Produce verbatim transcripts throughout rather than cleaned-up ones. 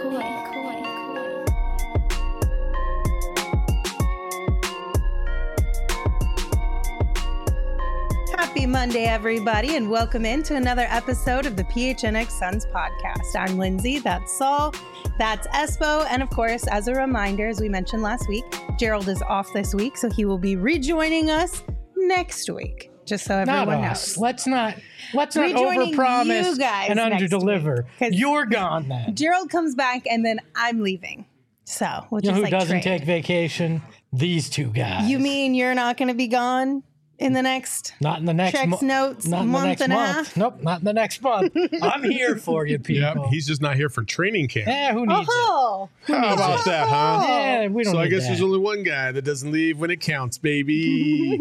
Happy Monday, everybody, and welcome in to another episode of the P H N X Suns podcast. I'm Lindsay, that's Saul, that's Espo, and of course, as a reminder, as we mentioned last week, Gerald is off this week, so he will be rejoining us next week. Just so everyone not knows. Us. Let's not let's not Rejoining overpromise you guys and next underdeliver. week, 'cause You're gone then. Gerald comes back, and then I'm leaving. So we'll You just know who like doesn't trade. take vacation? These two guys. You mean you're not going to be gone in the next? Not in the next checks, month. notes, Not in month the next and a month. half? Nope, not in the next month. I'm here for you, people. Yeah, he's just not here for training camp. Yeah, who needs Oh, How about that, huh? it? Yeah, we don't So I need guess that. there's only one guy that doesn't leave when it counts, baby.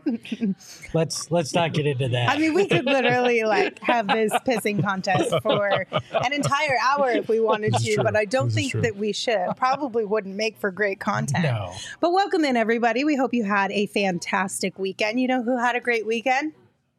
Let's let's not get into that. I mean, we could literally like have this pissing contest for an entire hour if we wanted This is to, true. but I don't This is think true. that we should. Probably wouldn't make for great content. No. But welcome in, everybody. We hope you had a fantastic weekend. You know who had a great weekend?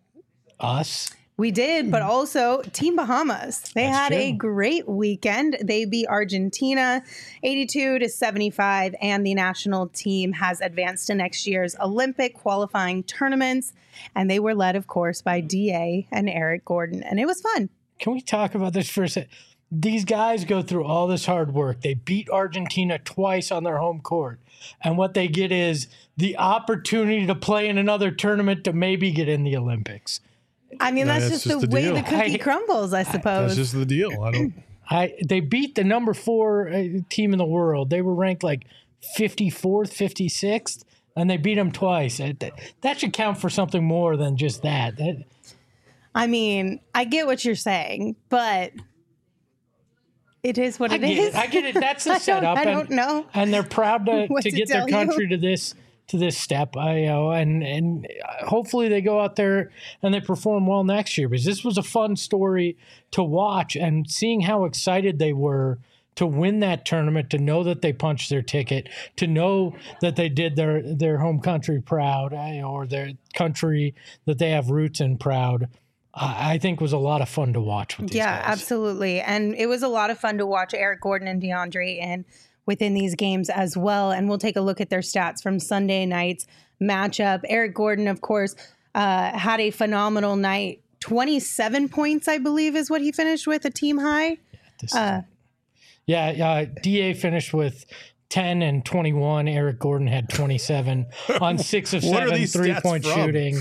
Us. We did, but also Team Bahamas. They That's had true. a great weekend. They beat Argentina eighty-two to seventy-five, and the national team has advanced to next year's Olympic qualifying tournaments. And they were led, of course, by D A and Eric Gordon. And it was fun. Can we talk about this for a second? These guys go through all this hard work. They beat Argentina twice on their home court. And what they get is the opportunity to play in another tournament to maybe get in the Olympics. I mean, Yeah, that's that's just, just the, the way deal. the cookie I- crumbles, I suppose. That's just the deal. I don't. I they beat the number four uh, team in the world. They were ranked like fifty-fourth, fifty-sixth, and they beat them twice. That, that should count for something more than just that. That- I mean, I get what you're saying, but it is what I it get is. it. I get it. That's the I don't- setup. I and, don't know And they're proud to, what to to get their tell you. country to this to this step. I know, and and hopefully they go out there and they perform well next year. Because this was a fun story to watch, and seeing how excited they were to win that tournament, to know that they punched their ticket, to know that they did their their home country proud, eh, or their country that they have roots in proud. I I think was a lot of fun to watch with these Yeah, guys. absolutely. And it was a lot of fun to watch Eric Gordon and DeAndre in within these games as well. And we'll take a look at their stats from Sunday night's matchup. Eric Gordon, of course, uh, had a phenomenal night. twenty-seven points, I believe, is what he finished with, a team high. This Uh, Yeah, uh, D A finished with ten and twenty-one. Eric Gordon had twenty-seven on six of What are seven these stats three-point from? shooting.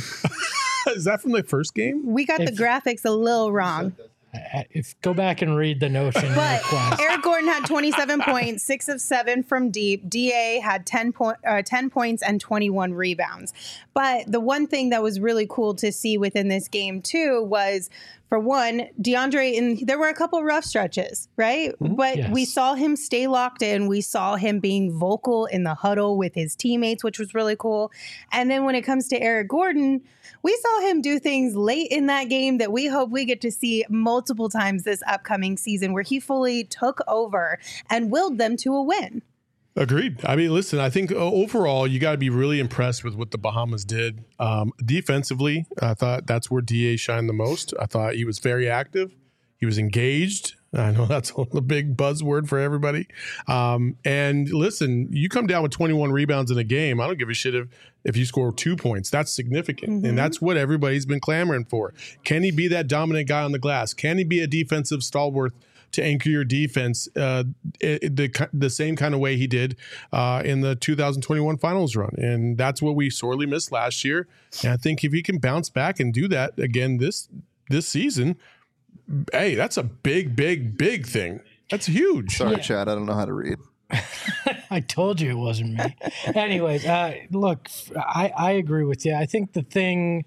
Is that from the first game? we got the If- graphics a little wrong. Uh, If go back and read the Notion But request. Eric Gordon had twenty-seven points, six of seven from deep. D A had ten, point, uh, ten points and twenty-one rebounds. But the one thing that was really cool to see within this game, too, was, for one, DeAndre, and there were a couple rough stretches, right? But Yes. we saw him stay locked in. We saw him being vocal in the huddle with his teammates, which was really cool. And then when it comes to Eric Gordon, we saw him do things late in that game that we hope we get to see multiple times this upcoming season, where he fully took over and willed them to a win. Agreed. I mean, listen, I think uh, overall, you got to be really impressed with what the Bahamas did. Um, defensively, I thought that's where D A shined the most. I thought he was very active. He was engaged. I know that's a big buzzword for everybody. Um, and listen, you come down with twenty-one rebounds in a game. I don't give a shit if, if you score two points. That's significant. Mm-hmm. And that's what everybody's been clamoring for. Can he be that dominant guy on the glass? Can he be a defensive stalwart to anchor your defense uh, it, the the same kind of way he did uh, in the two thousand twenty-one finals run? And that's what we sorely missed last year. And I think if he can bounce back and do that again this this season, hey, that's a big, big, big thing. That's huge. Sorry, Chad. I don't know how to read. I told you it wasn't me. Anyways, uh, look, I, I agree with you. I think the thing,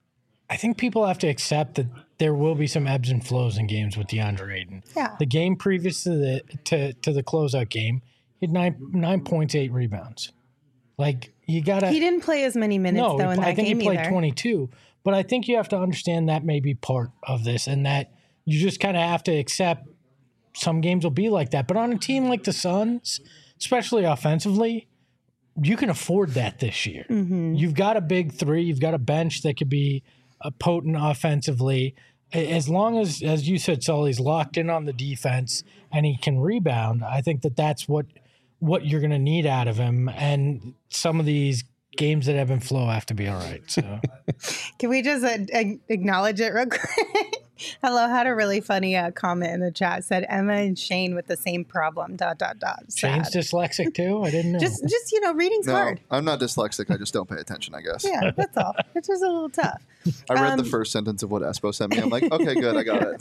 I think people have to accept that there will be some ebbs and flows in games with DeAndre Ayton. Yeah. The game previous to the to, to the closeout game, he had nine nine points, eight rebounds. Like you gotta. He didn't play as many minutes, no, though, in that I think game he played either. twenty-two. But I think you have to understand that may be part of this, and that you just kind of have to accept some games will be like that. But on a team like the Suns, especially offensively, you can afford that this year. Mm-hmm. You've got a big three. You've got a bench that could be uh, potent offensively. as long as, as you said, Sully's locked in on the defense and he can rebound, I think that that's what what you're going to need out of him. And some of these games that ebb and flow have to be all right. So, can we just uh, acknowledge it real quick? Hello, had a really funny uh, comment in the chat. Said Emma and Shane with the same problem. Dot dot dot. Sad. Shane's dyslexic too. I didn't know. Just, just you know, reading's No, hard. I'm not dyslexic. I just don't pay attention, I guess. Yeah, that's all. It's just a little tough. I read Um, the first sentence of what Espo sent me. I'm like, okay, good, I got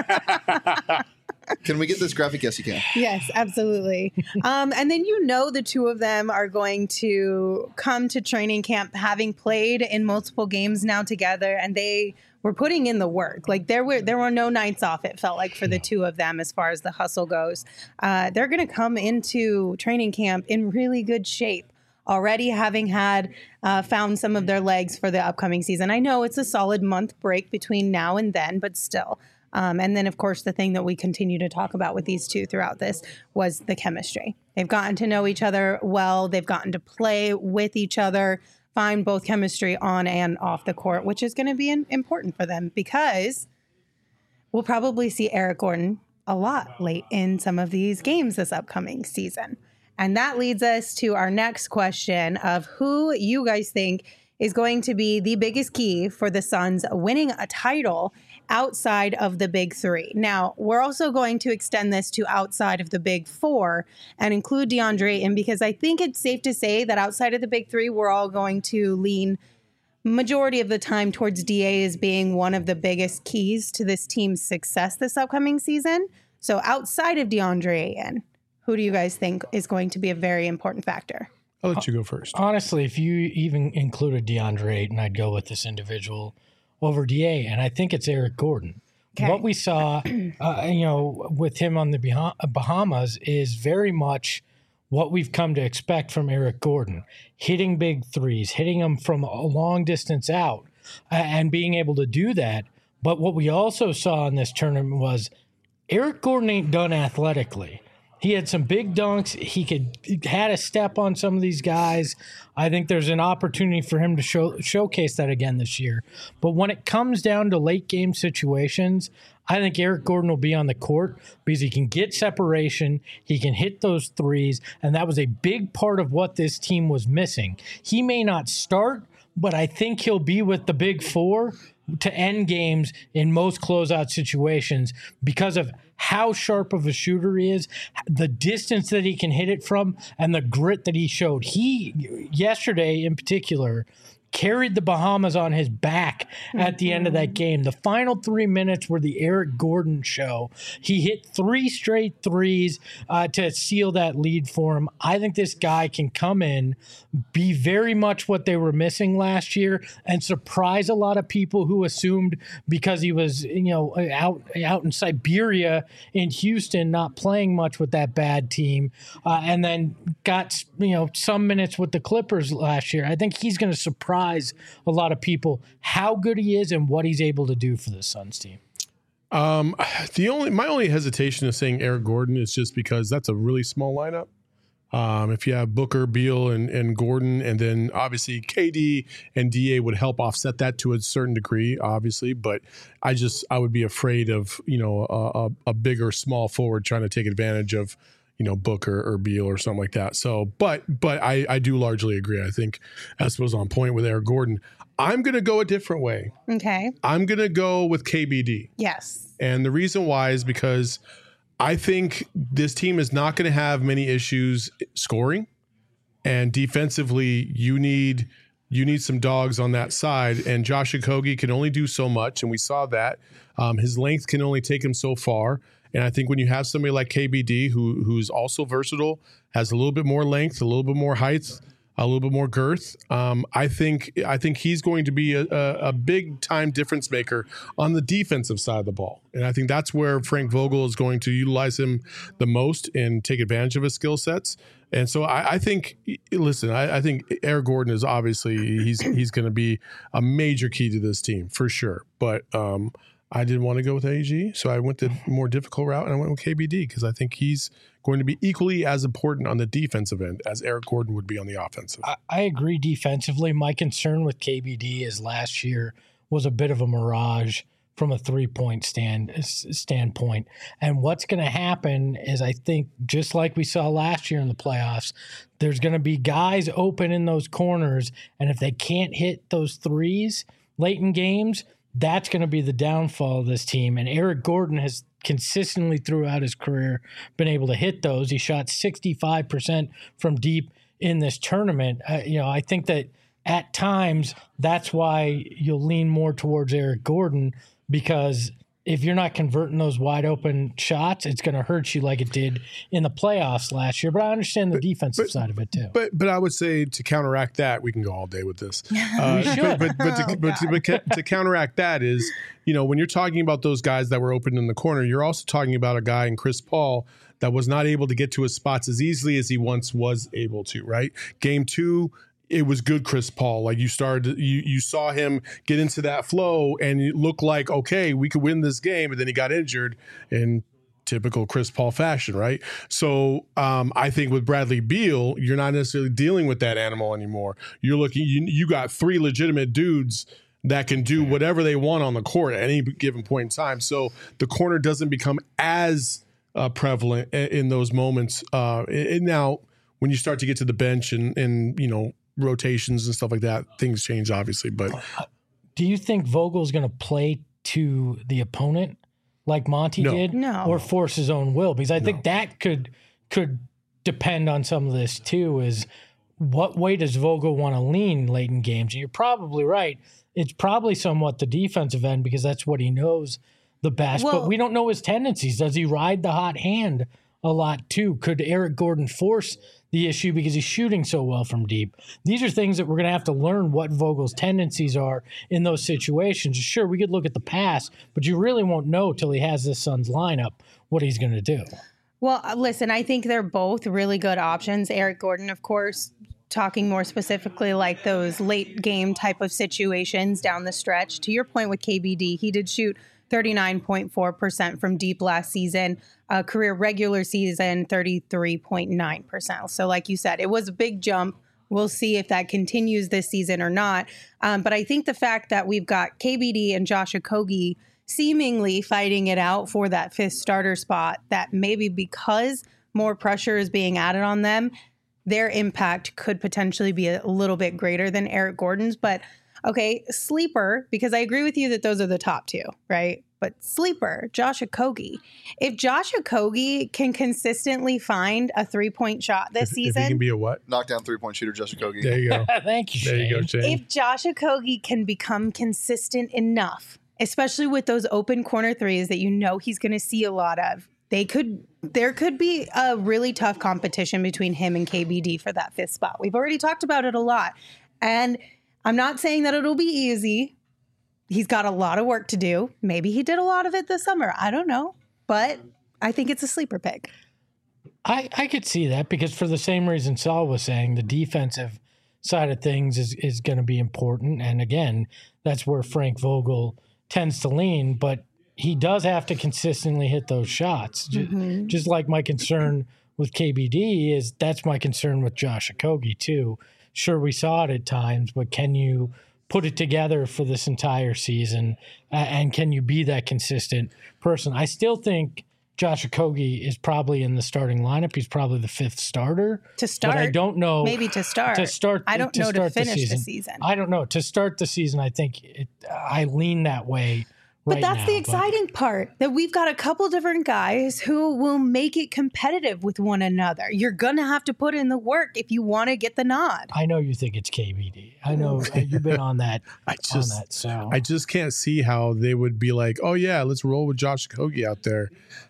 it. Can we get this graphic? Yes, you can. Yes, absolutely. Um, and then you know the two of them are going to come to training camp having played in multiple games now together, and they were putting in the work. Like there were there were no nights off, it felt like, for the two of them as far as the hustle goes. Uh, they're going to come into training camp in really good shape, already having had uh, found some of their legs for the upcoming season. I know it's a solid month break between now and then, but still. Um, and then, of course, the thing that we continue to talk about with these two throughout this was the chemistry. They've gotten to know each other well. They've gotten to play with each other, find both chemistry on and off the court, which is going to be in, important for them because we'll probably see Eric Gordon a lot late in some of these games this upcoming season. And that leads us to our next question of who you guys think is going to be the biggest key for the Suns winning a title outside of the big three. Now, we're also going to extend this to outside of the big four and include DeAndre in, because I think it's safe to say that outside of the big three, we're all going to lean majority of the time towards D A as being one of the biggest keys to this team's success this upcoming season. So outside of DeAndre Ayton, who do you guys think is going to be a very important factor? I'll let you go first. Honestly, if you even included DeAndre Ayton, I'd go with this individual over D A, and I think it's Eric Gordon. Okay. What we saw, uh, you know, with him on the Bah- Bahamas is very much what we've come to expect from Eric Gordon, hitting big threes, hitting them from a long distance out, uh, and being able to do that. But what we also saw in this tournament was Eric Gordon ain't done athletically. He had some big dunks. He could he had a step on some of these guys. I think there's an opportunity for him to show, showcase that again this year. But when it comes down to late game situations, I think Eric Gordon will be on the court because he can get separation, he can hit those threes, and that was a big part of what this team was missing. He may not start, but I think he'll be with the big four to end games in most closeout situations because of how sharp of a shooter he is, the distance that he can hit it from, and the grit that he showed. He, yesterday in particular, carried the Bahamas on his back at the end of that game. The final three minutes were the Eric Gordon show. He hit three straight threes uh, to seal that lead for him. I think this guy can come in, be very much what they were missing last year, and surprise a lot of people who assumed because he was, you know, out out in Siberia in Houston, not playing much with that bad team, uh, and then got, you know, some minutes with the Clippers last year. I think he's going to surprise a lot of people how good he is and what he's able to do for the Suns team. Um, the only my only hesitation of saying Eric Gordon is just because that's a really small lineup. Um, if you have Booker, Beal, and, and Gordon, and then obviously K D and D A would help offset that to a certain degree, obviously. But I just I would be afraid of, you know, a, a, a big or small forward trying to take advantage of, you know, Booker or Beal or something like that. So, but but I, I do largely agree. I think Espo's on point with Eric Gordon. I'm going to go a different way. Okay. I'm going to go with K B D. Yes. And the reason why is because I think this team is not going to have many issues scoring, and defensively you need you need some dogs on that side, and Josh Okogie can only do so much, and we saw that. Um, his length can only take him so far. And I think when you have somebody like K B D, who who's also versatile, has a little bit more length, a little bit more height, a little bit more girth, um, I think I think he's going to be a, a, a big time difference maker on the defensive side of the ball. And I think that's where Frank Vogel is going to utilize him the most and take advantage of his skill sets. And so I, I think, listen, I, I think Eric Gordon is obviously he's he's going to be a major key to this team for sure. But um, I didn't want to go with A G, so I went the more difficult route, and I went with K B D because I think he's going to be equally as important on the defensive end as Eric Gordon would be on the offensive. I, I agree defensively. My concern with K B D is last year was a bit of a mirage from a three-point stand standpoint. And what's going to happen is, I think, just like we saw last year in the playoffs, there's going to be guys open in those corners, and if they can't hit those threes late in games, that's going to be the downfall of this team. And Eric Gordon has consistently throughout his career been able to hit those. He shot sixty-five percent from deep in this tournament. Uh, you know, I think that at times that's why you'll lean more towards Eric Gordon, because if you're not converting those wide open shots, it's going to hurt you like it did in the playoffs last year. But I understand the but, defensive but, side of it too. But but I would say to counteract that, we can go all day with this. Uh, we should. But, but, but, to, Oh, but, to, but to counteract that is, you know, when you're talking about those guys that were open in the corner, you're also talking about a guy in Chris Paul that was not able to get to his spots as easily as he once was able to, right? Game two, it was good Chris Paul. Like you started, you you saw him get into that flow and it looked like, okay, we could win this game. And then he got injured in typical Chris Paul fashion, right? So um, I think with Bradley Beal, you're not necessarily dealing with that animal anymore. You're looking, you, you got three legitimate dudes that can do whatever they want on the court at any given point in time. So the corner doesn't become as uh, prevalent in, in those moments. Uh, and now when you start to get to the bench and, and you know, rotations and stuff like that, things change obviously. But do you think Vogel's going to play to the opponent like Monty No. did, No. or force his own will? Because I No. think that could could depend on some of this too. Is what way does Vogel want to lean late in games? And you're probably right. It's probably somewhat the defensive end because that's what he knows the best. Well- but we don't know his tendencies. Does he ride the hot hand a lot too? Could Eric Gordon force the issue because he's shooting so well from deep? These are things that we're going to have to learn what Vogel's tendencies are in those situations. Sure, we could look at the past, but you really won't know till he has this Suns lineup what he's going to do. Well, uh, listen, I think they're both really good options. Eric Gordon, of course, talking more specifically like those late game type of situations down the stretch. To your point with K B D, he did shoot thirty-nine point four percent from deep last season, uh, career regular season, thirty-three point nine percent. So like you said, it was a big jump. We'll see if that continues this season or not. Um, but I think the fact that we've got K B D and Josh Okogie seemingly fighting it out for that fifth starter spot, that maybe because more pressure is being added on them, their impact could potentially be a little bit greater than Eric Gordon's. But okay, sleeper, because I agree with you that those are the top two, right? But sleeper, Josh Okogie. If Josh Okogie can consistently find a three-point shot this if, if he season, can be a what? Knockdown three-point shooter, Josh Okogie. There you go. Thank you, There Shane. you go, Shane. if Josh Okogie can become consistent enough, especially with those open corner threes that you know he's going to see a lot of, they could there could be a really tough competition between him and K B D for that fifth spot. We've already talked about it a lot. And I'm not saying that it'll be easy. He's got a lot of work to do. Maybe he did a lot of it this summer. I don't know. But I think it's a sleeper pick. I, I could see that because for the same reason Saul was saying, the defensive side of things is, is going to be important. And again, that's where Frank Vogel tends to lean, but he does have to consistently hit those shots. Mm-hmm. Just like my concern with K B D is that's my concern with Josh Okogie too. Sure, we saw it at times, but can you put it together for this entire season? Uh, and can you be that consistent person? I still think Josh Okogie is probably in the starting lineup. He's probably the fifth starter. To start. But I don't know. Maybe to start. To start. I don't to know to start finish the the season. season. I don't know. To start the season, I think it, I lean that way. But Right that's now, the exciting part, that we've got a couple different guys who will make it competitive with one another. You're going to have to put in the work if you want to get the nod. I know you think it's K B D. I know you've been on that. I on just, that. So I just can't see how they would be like, oh yeah, let's roll with Josh Okogie out there.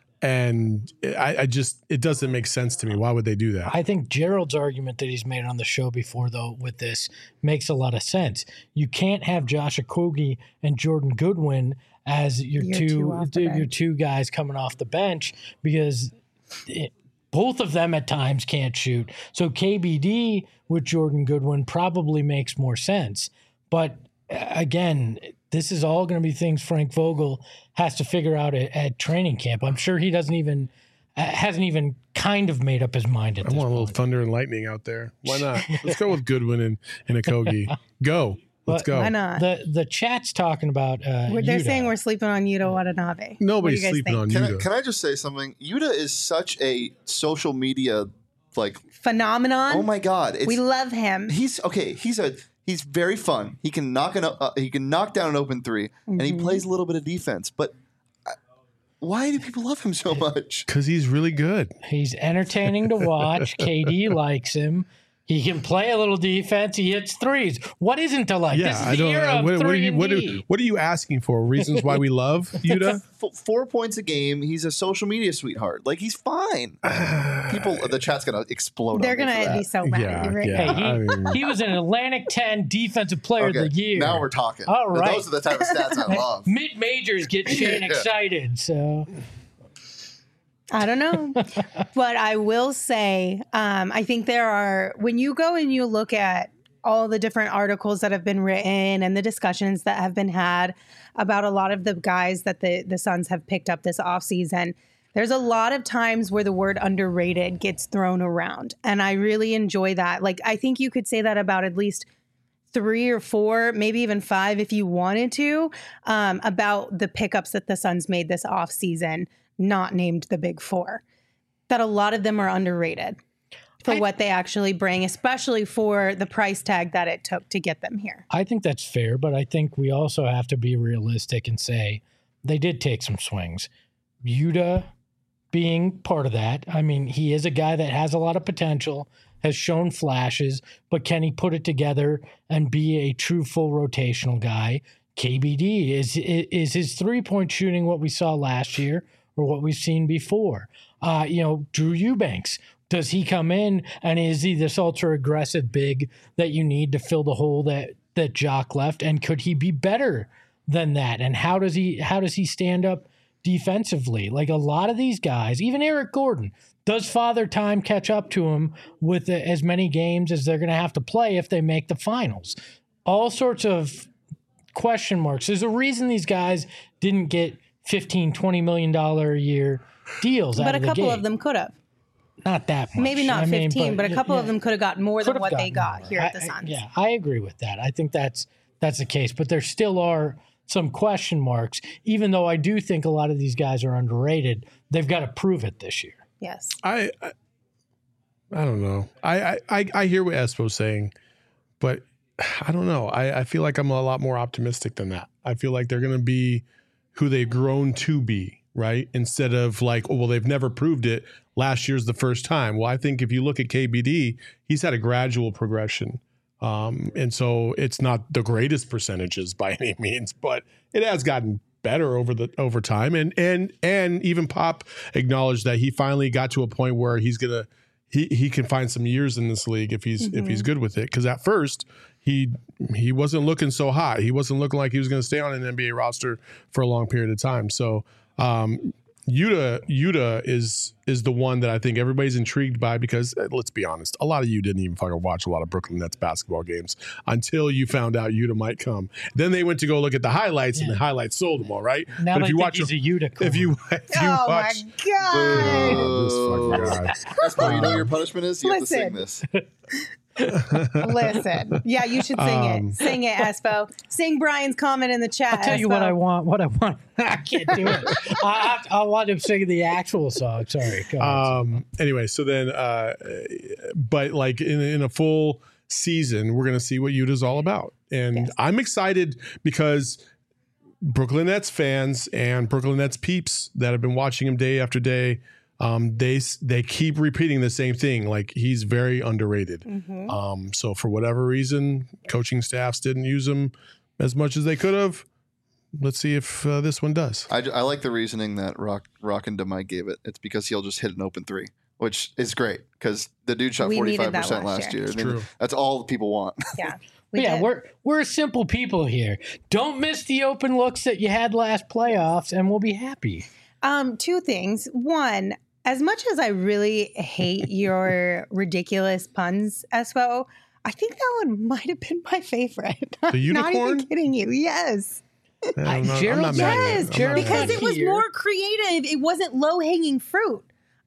And I, I just, it doesn't make sense to me. Why would they do that? I think Gerald's argument that he's made on the show before, though, with this makes a lot of sense. You can't have Josh Okogie and Jordan Goodwin as your, Your two, two off the your bench. two guys coming off the bench because it, both of them at times can't shoot. So K B D with Jordan Goodwin probably makes more sense. But uh, again, this is all going to be things Frank Vogel has to figure out at, at training camp. I'm sure he doesn't even uh, hasn't even kind of made up his mind at I this want a little point. thunder and lightning out there. Why not? Let's go with Goodwin and, and Okogie. Go. Let's But go. Why not? The the chat's talking about. Uh, We're- They're Yuta. saying we're sleeping on Yuta Watanabe. Nobody's What do you guys sleeping think? on Can I, Yuta. can I just say something? Yuta is such a social media like. Phenomenon. Oh my god! It's, we love him. he's okay. He's a he's very fun. He can knock an uh, he can knock down an open three, and he Mhm. plays a little bit of defense. But uh, why do people love him so much? Because he's really good. He's entertaining to watch. K D likes him. He can play a little defense. He hits threes. What isn't to like? Yeah, this is I the don't. era Uh, of what, what, are three you, and what, are, D. what are you asking for? Reasons why we love Yuta? F- four points a game. He's a social media sweetheart. Like he's fine. People, the chat's gonna explode. They're on me gonna for be that. so mad Yeah, at you right yeah. now. Hey, he, I mean- he was an Atlantic ten Defensive Player Okay, of the Year. now we're talking. All right. Those are the type of stats I love. Mid majors get Shane Yeah. excited. So I don't know. But I will say, um, I think there are, when you go and you look at all the different articles that have been written and the discussions that have been had about a lot of the guys that the, the Suns have picked up this offseason, there's a lot of times where the word underrated gets thrown around. And I really enjoy that. Like, I think you could say that about at least three or four, maybe even five if you wanted to, um, about the pickups that the Suns made this offseason, not named the Big Four, that a lot of them are underrated for I- what they actually bring, especially for the price tag that it took to get them here. I think that's fair, but I think we also have to be realistic and say they did take some swings. Yuta being part of that. I mean, he is a guy that has a lot of potential, has shown flashes, but can he put it together and be a true full rotational guy? K B D, is is his three-point shooting what we saw last year or what we've seen before? Uh, you know, Drew Eubanks, does he come in and is he this ultra-aggressive big that you need to fill the hole that that Jock left? And could he be better than that? And how does he how does he stand up defensively? Like a lot of these guys, even Eric Gordon, does Father Time catch up to him with the, as many games as they're going to have to play if they make the finals? All sorts of question marks. There's a reason these guys didn't get fifteen, twenty million dollars a year deals out But a of the couple gate. of them could have. Not that much. Maybe not I mean, fifteen, but, a couple yeah, of them could have gotten more could than have what they gotten got more. here at the I- I- Suns. Yeah, I agree with that. I think that's that's the case, but there still are some question marks. Even though I do think a lot of these guys are underrated, they've got to prove it this year. Yes. I, I I don't know. I, I, I, I hear what Espo's saying, but I don't know. I, I feel like I'm a lot more optimistic than that. I feel like they're going to be who they've grown to be, right? Instead of like, oh, well, they've never proved it. Last year's the first time. Well, I think if you look at K B D, he's had a gradual progression. Um, and so it's not the greatest percentages by any means, but it has gotten better over the over time. And and and even Pop acknowledged that he finally got to a point where he's gonna he he can find some years in this league if he's if he's good with it. Because at first he he wasn't looking so hot. He wasn't looking like he was going to stay on an N B A roster for a long period of time. So um, Yuta Yuta is is the one that I think everybody's intrigued by because uh, let's be honest, a lot of you didn't even fucking watch a lot of Brooklyn Nets basketball games until you found out Yuta might come. Then they went to go look at the highlights, and the highlights sold them all, right? Now but they if you think watch he's a, a Yuta. if you if you Oh watch my God. oh, this fucking guy. Espo, you know your punishment is you Listen. have to sing this. Listen. Yeah, you should sing Um, it. Sing it, Espo. Sing Brian's comment in the chat. I'll tell you Espo. what I want. What I want. I can't do it. I, I, I want him singing the actual song. Sorry. Go ahead. Um. Anyway, so then, uh, but like in in a full season, we're gonna see what Yuta's all about, and Yes. I'm excited because Brooklyn Nets fans and Brooklyn Nets peeps that have been watching him day after day, um, they they keep repeating the same thing. Like he's very underrated. Mhm. Um. So for whatever reason, coaching staffs didn't use him as much as they could have. Let's see if uh, this one does. I, I like the reasoning that Rock Rock and DeMike gave it. It's because he'll just hit an open three, which is great because the dude shot We needed forty-five that percent last last year. year. It's I mean, true. That's all people want. Yeah. We yeah, did. we're we're simple people here. Don't miss the open looks that you had last playoffs, and we'll be happy. Um, two things. One, as much as I really hate your ridiculous puns, Espo, I think that one might have been my favorite. The Not unicorn? even kidding you. Yes. I'm not, I'm Gerald- not mad at it. Yes, I'm not Gerald- mad at because it. it was Here. more creative. It wasn't low hanging fruit.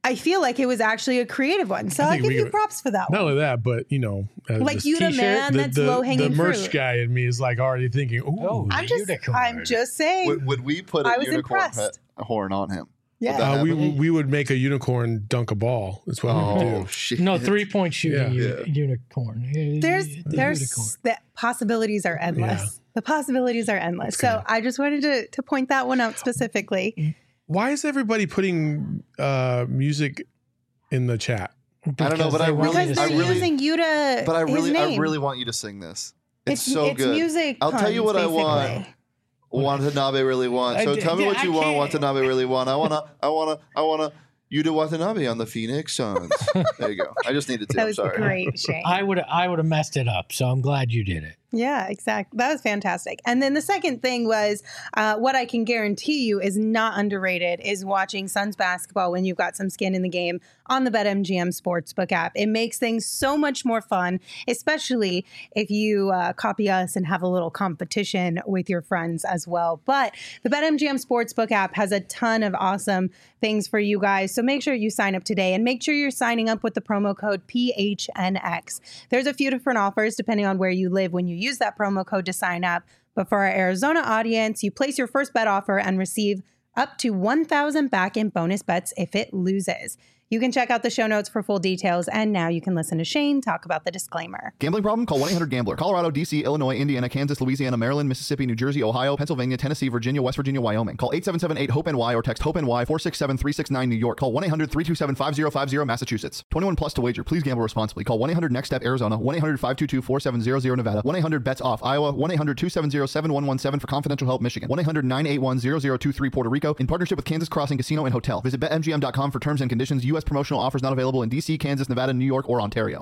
I feel like it was actually a creative one. So I I'll think give we you could- props for that Not one. only that, but you know, uh, Like the, you the t-shirt, man the, that's the, low hanging the merch fruit. guy in me is like already thinking, ooh, Oh, I'm just, Unicorn. I'm just saying. Would, would we put I a was unicorn impressed. he- horn on him? Yeah. that uh, we happen? we would make a unicorn dunk a ball. That's what we would Oh do. shit! No, three point shooting Yeah. uni- unicorn. Uh, There's the there's unicorn. the possibilities are endless. Yeah. The possibilities are endless. So Okay. I just wanted to to point that one out specifically. Why is everybody putting uh, music in the chat? I don't know, Because but I they want really- Because you to they're I really- using you to But I his really, name. I really want you to sing this. It's, it's so it's good. music. I'll tell you puns, what I want. basically. Watanabe really want. I So d- tell me d- what I you want. can't. Watanabe really want. I wanna. I wanna. I wanna. You do Watanabe on the Phoenix Suns. There you go. I just needed to. That I'm was sorry. great, Shane. I would I would have messed it up, so I'm glad you did it. Yeah, exactly. That was fantastic. And then the second thing was uh, what I can guarantee you is not underrated is watching Suns basketball when you've got some skin in the game on the BetMGM Sportsbook app. It makes things so much more fun, especially if you uh, copy us and have a little competition with your friends as well. But the BetMGM Sportsbook app has a ton of awesome things for you guys. So make sure you sign up today and make sure you're signing up with the promo code P H N X. There's a few different offers depending on where you live when you use that promo code to sign up. But for our Arizona audience, you place your first bet offer and receive up to one thousand back in bonus bets if it loses. You can check out the show notes for full details. And now you can listen to Shane talk about the disclaimer. Gambling problem? Call one eight hundred gambler. Colorado, D C, Illinois, Indiana, Kansas, Louisiana, Maryland, Mississippi, New Jersey, Ohio, Pennsylvania, Tennessee, Virginia, West Virginia, Wyoming. Call eight seven seven eight hope N Y or text HOPE-NY four six seven three six nine New York. Call one eight hundred three two seven five zero five zero Massachusetts. twenty-one plus to wager. Please gamble responsibly. Call one eight hundred next step Arizona, one eight hundred five two two four seven zero zero Nevada, one eight hundred bets off Iowa, one eight hundred two seven zero seven one one seven for confidential help Michigan, one eight hundred nine eight one zero zero two three Puerto Rico in partnership with Kansas Crossing Casino and Hotel. Visit bet M G M dot com for terms and conditions. U S promotional offers not available in D C, Kansas, Nevada, New York, or Ontario.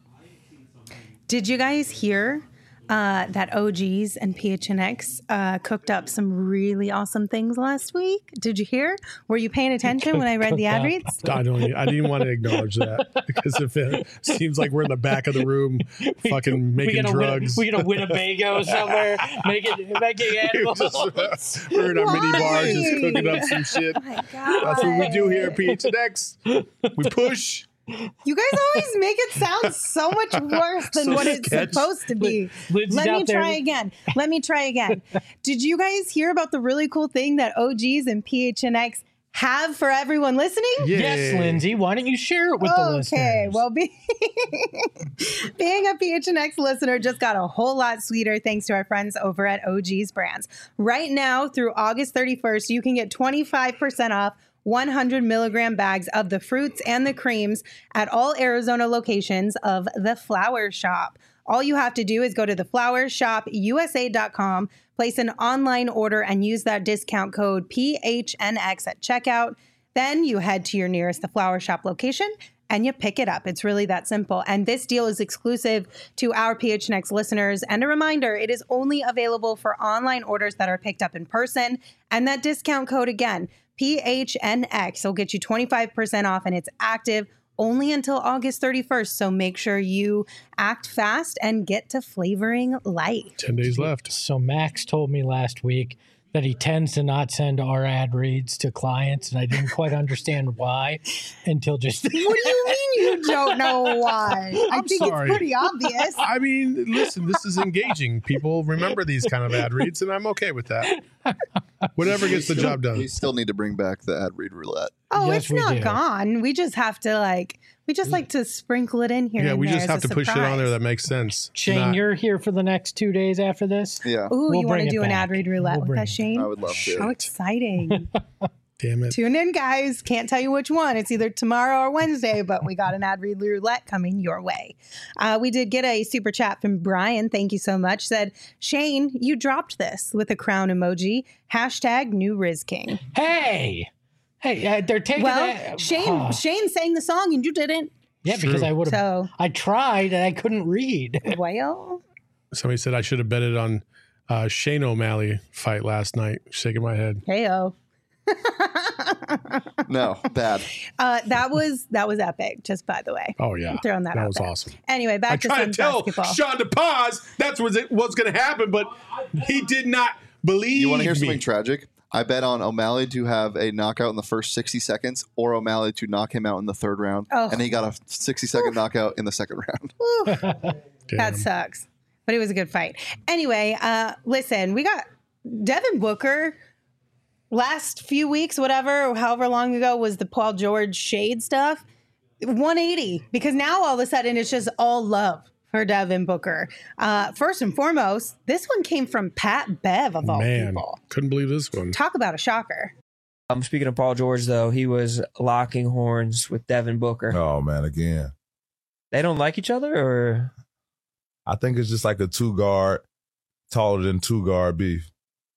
Did you guys hear uh, that O Gs and P H N X uh, cooked up some really awesome things last week? Did you hear? Were you paying attention when I read the ad reads? I don't. I didn't even want to acknowledge that because if it seems like we're in the back of the room, fucking making we drugs. Win, we get a Winnebago somewhere, making making animals. Just, we're in our mini bar, just Why? cooking up some shit. Oh my God. That's what we do here at P H N X. We push. You guys always make it sound so much worse than So what it's sketch. supposed to be. Lindsay's Let me out there. try again. Let me try again. Did you guys hear about the really cool thing that O Gs and P H N X have for everyone listening? Yeah. Yes, Lindsay. Why don't you share it with the listeners? Okay, well, be, being a P H N X listener just got a whole lot sweeter thanks to our friends over at O G's Brands. Right now, through August thirty-first, you can get twenty-five percent off one hundred milligram bags of the fruits and the creams at all Arizona locations of The Flower Shop. All you have to do is go to the flower shop U S A dot com, place an online order, and use that discount code P H N X at checkout. Then you head to your nearest The Flower Shop location and you pick it up. It's really that simple. And this deal is exclusive to our P H N X listeners. And a reminder, it is only available for online orders that are picked up in person. And that discount code again, P H N X, will get you twenty-five percent off, and it's active only until August thirty-first. So make sure you act fast and get to flavoring life. Ten days left. So Max told me last week that he tends to not send our ad reads to clients, and I didn't quite understand why until just. What do you mean you don't know why? I I'm think sorry. it's pretty obvious. I mean, listen, this is engaging. People remember these kind of ad reads, and I'm okay with that. Whatever gets the job done. We still need to bring back the ad read roulette. Oh, Yes, it's we not do. gone. We just have to like, we just like to sprinkle it in here. Yeah, and we there just as have a to push it on surprise. there that makes sense. Shane, Not- you're here for the next two days after this. Yeah, Ooh, We'll you want bring to it do an back. ad read roulette We'll with bring us, it Shane? I would love to. How exciting. Damn it. Tune in, guys. Can't tell you which one. It's either tomorrow or Wednesday, but we got an ad read roulette coming your way. Uh, we did get a super chat from Brian. Thank you so much. Said, Shane, you dropped this with a crown emoji. Hashtag new Riz King. Hey, hey, uh, they're taking Well, that. Shane, Oh. Shane sang the song and you didn't. Yeah, because True. I would have. So, I tried and I couldn't read. well, Somebody said I should have betted on uh, Shane O'Malley fight last night. Shaking my head. hey-oh. No, bad. Uh, that was that was epic. Just by the way, Oh yeah, I'm throwing that, that out was there. awesome. Anyway, I back to tried to Suns tell basketball. Sean to pause. That's what's what's going to happen, but he did not believe You want to hear me. something tragic? I bet on O'Malley to have a knockout in the first sixty seconds or O'Malley to knock him out in the third round. Oh. And he got a sixty second knockout in the second round. Ooh, Damn. that sucks. But it was a good fight. Anyway, uh, listen, we got Devin Booker last few weeks, whatever, however long ago was the Paul George shade stuff. one eighty, because now all of a sudden it's just all love for Devin Booker. Uh, first and foremost, this one came from Pat Bev of all Man, people. couldn't believe this one. Talk about a shocker. Um, speaking of Paul George, though, he was locking horns with Devin Booker. Oh man, again, They don't like each other, or I think it's just like a two guard, taller than two guard beef.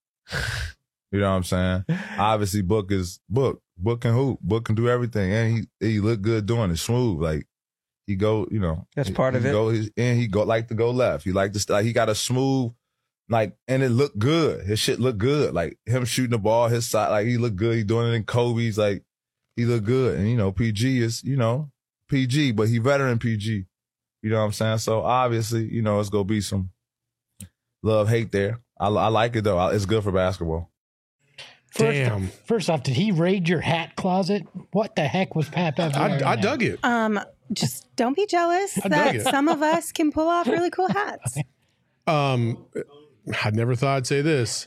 You know what I'm saying? Obviously, Book is Book. Book can hoop. Book can do everything, and he he look good doing it. Smooth, like he go. You know, That's he- part he of it. Go, he- and he go like to go left. He like to st- like he got a smooth, like, and it looked good. His shit looked good. Like him shooting the ball, his side, like he looked good. He doing it in Kobe's, like he looked good. And you know, P G is you know P G, but he veteran P G. You know what I'm saying? So obviously, you know, it's gonna be some love hate there. I, I like it though. It's good for basketball. First, Damn. First off, did he raid your hat closet? What the heck was Pat Bev I, wearing I there? dug it. Um, just don't be jealous I dug that it. some of us can pull off really cool hats. Um, I never thought I'd say this.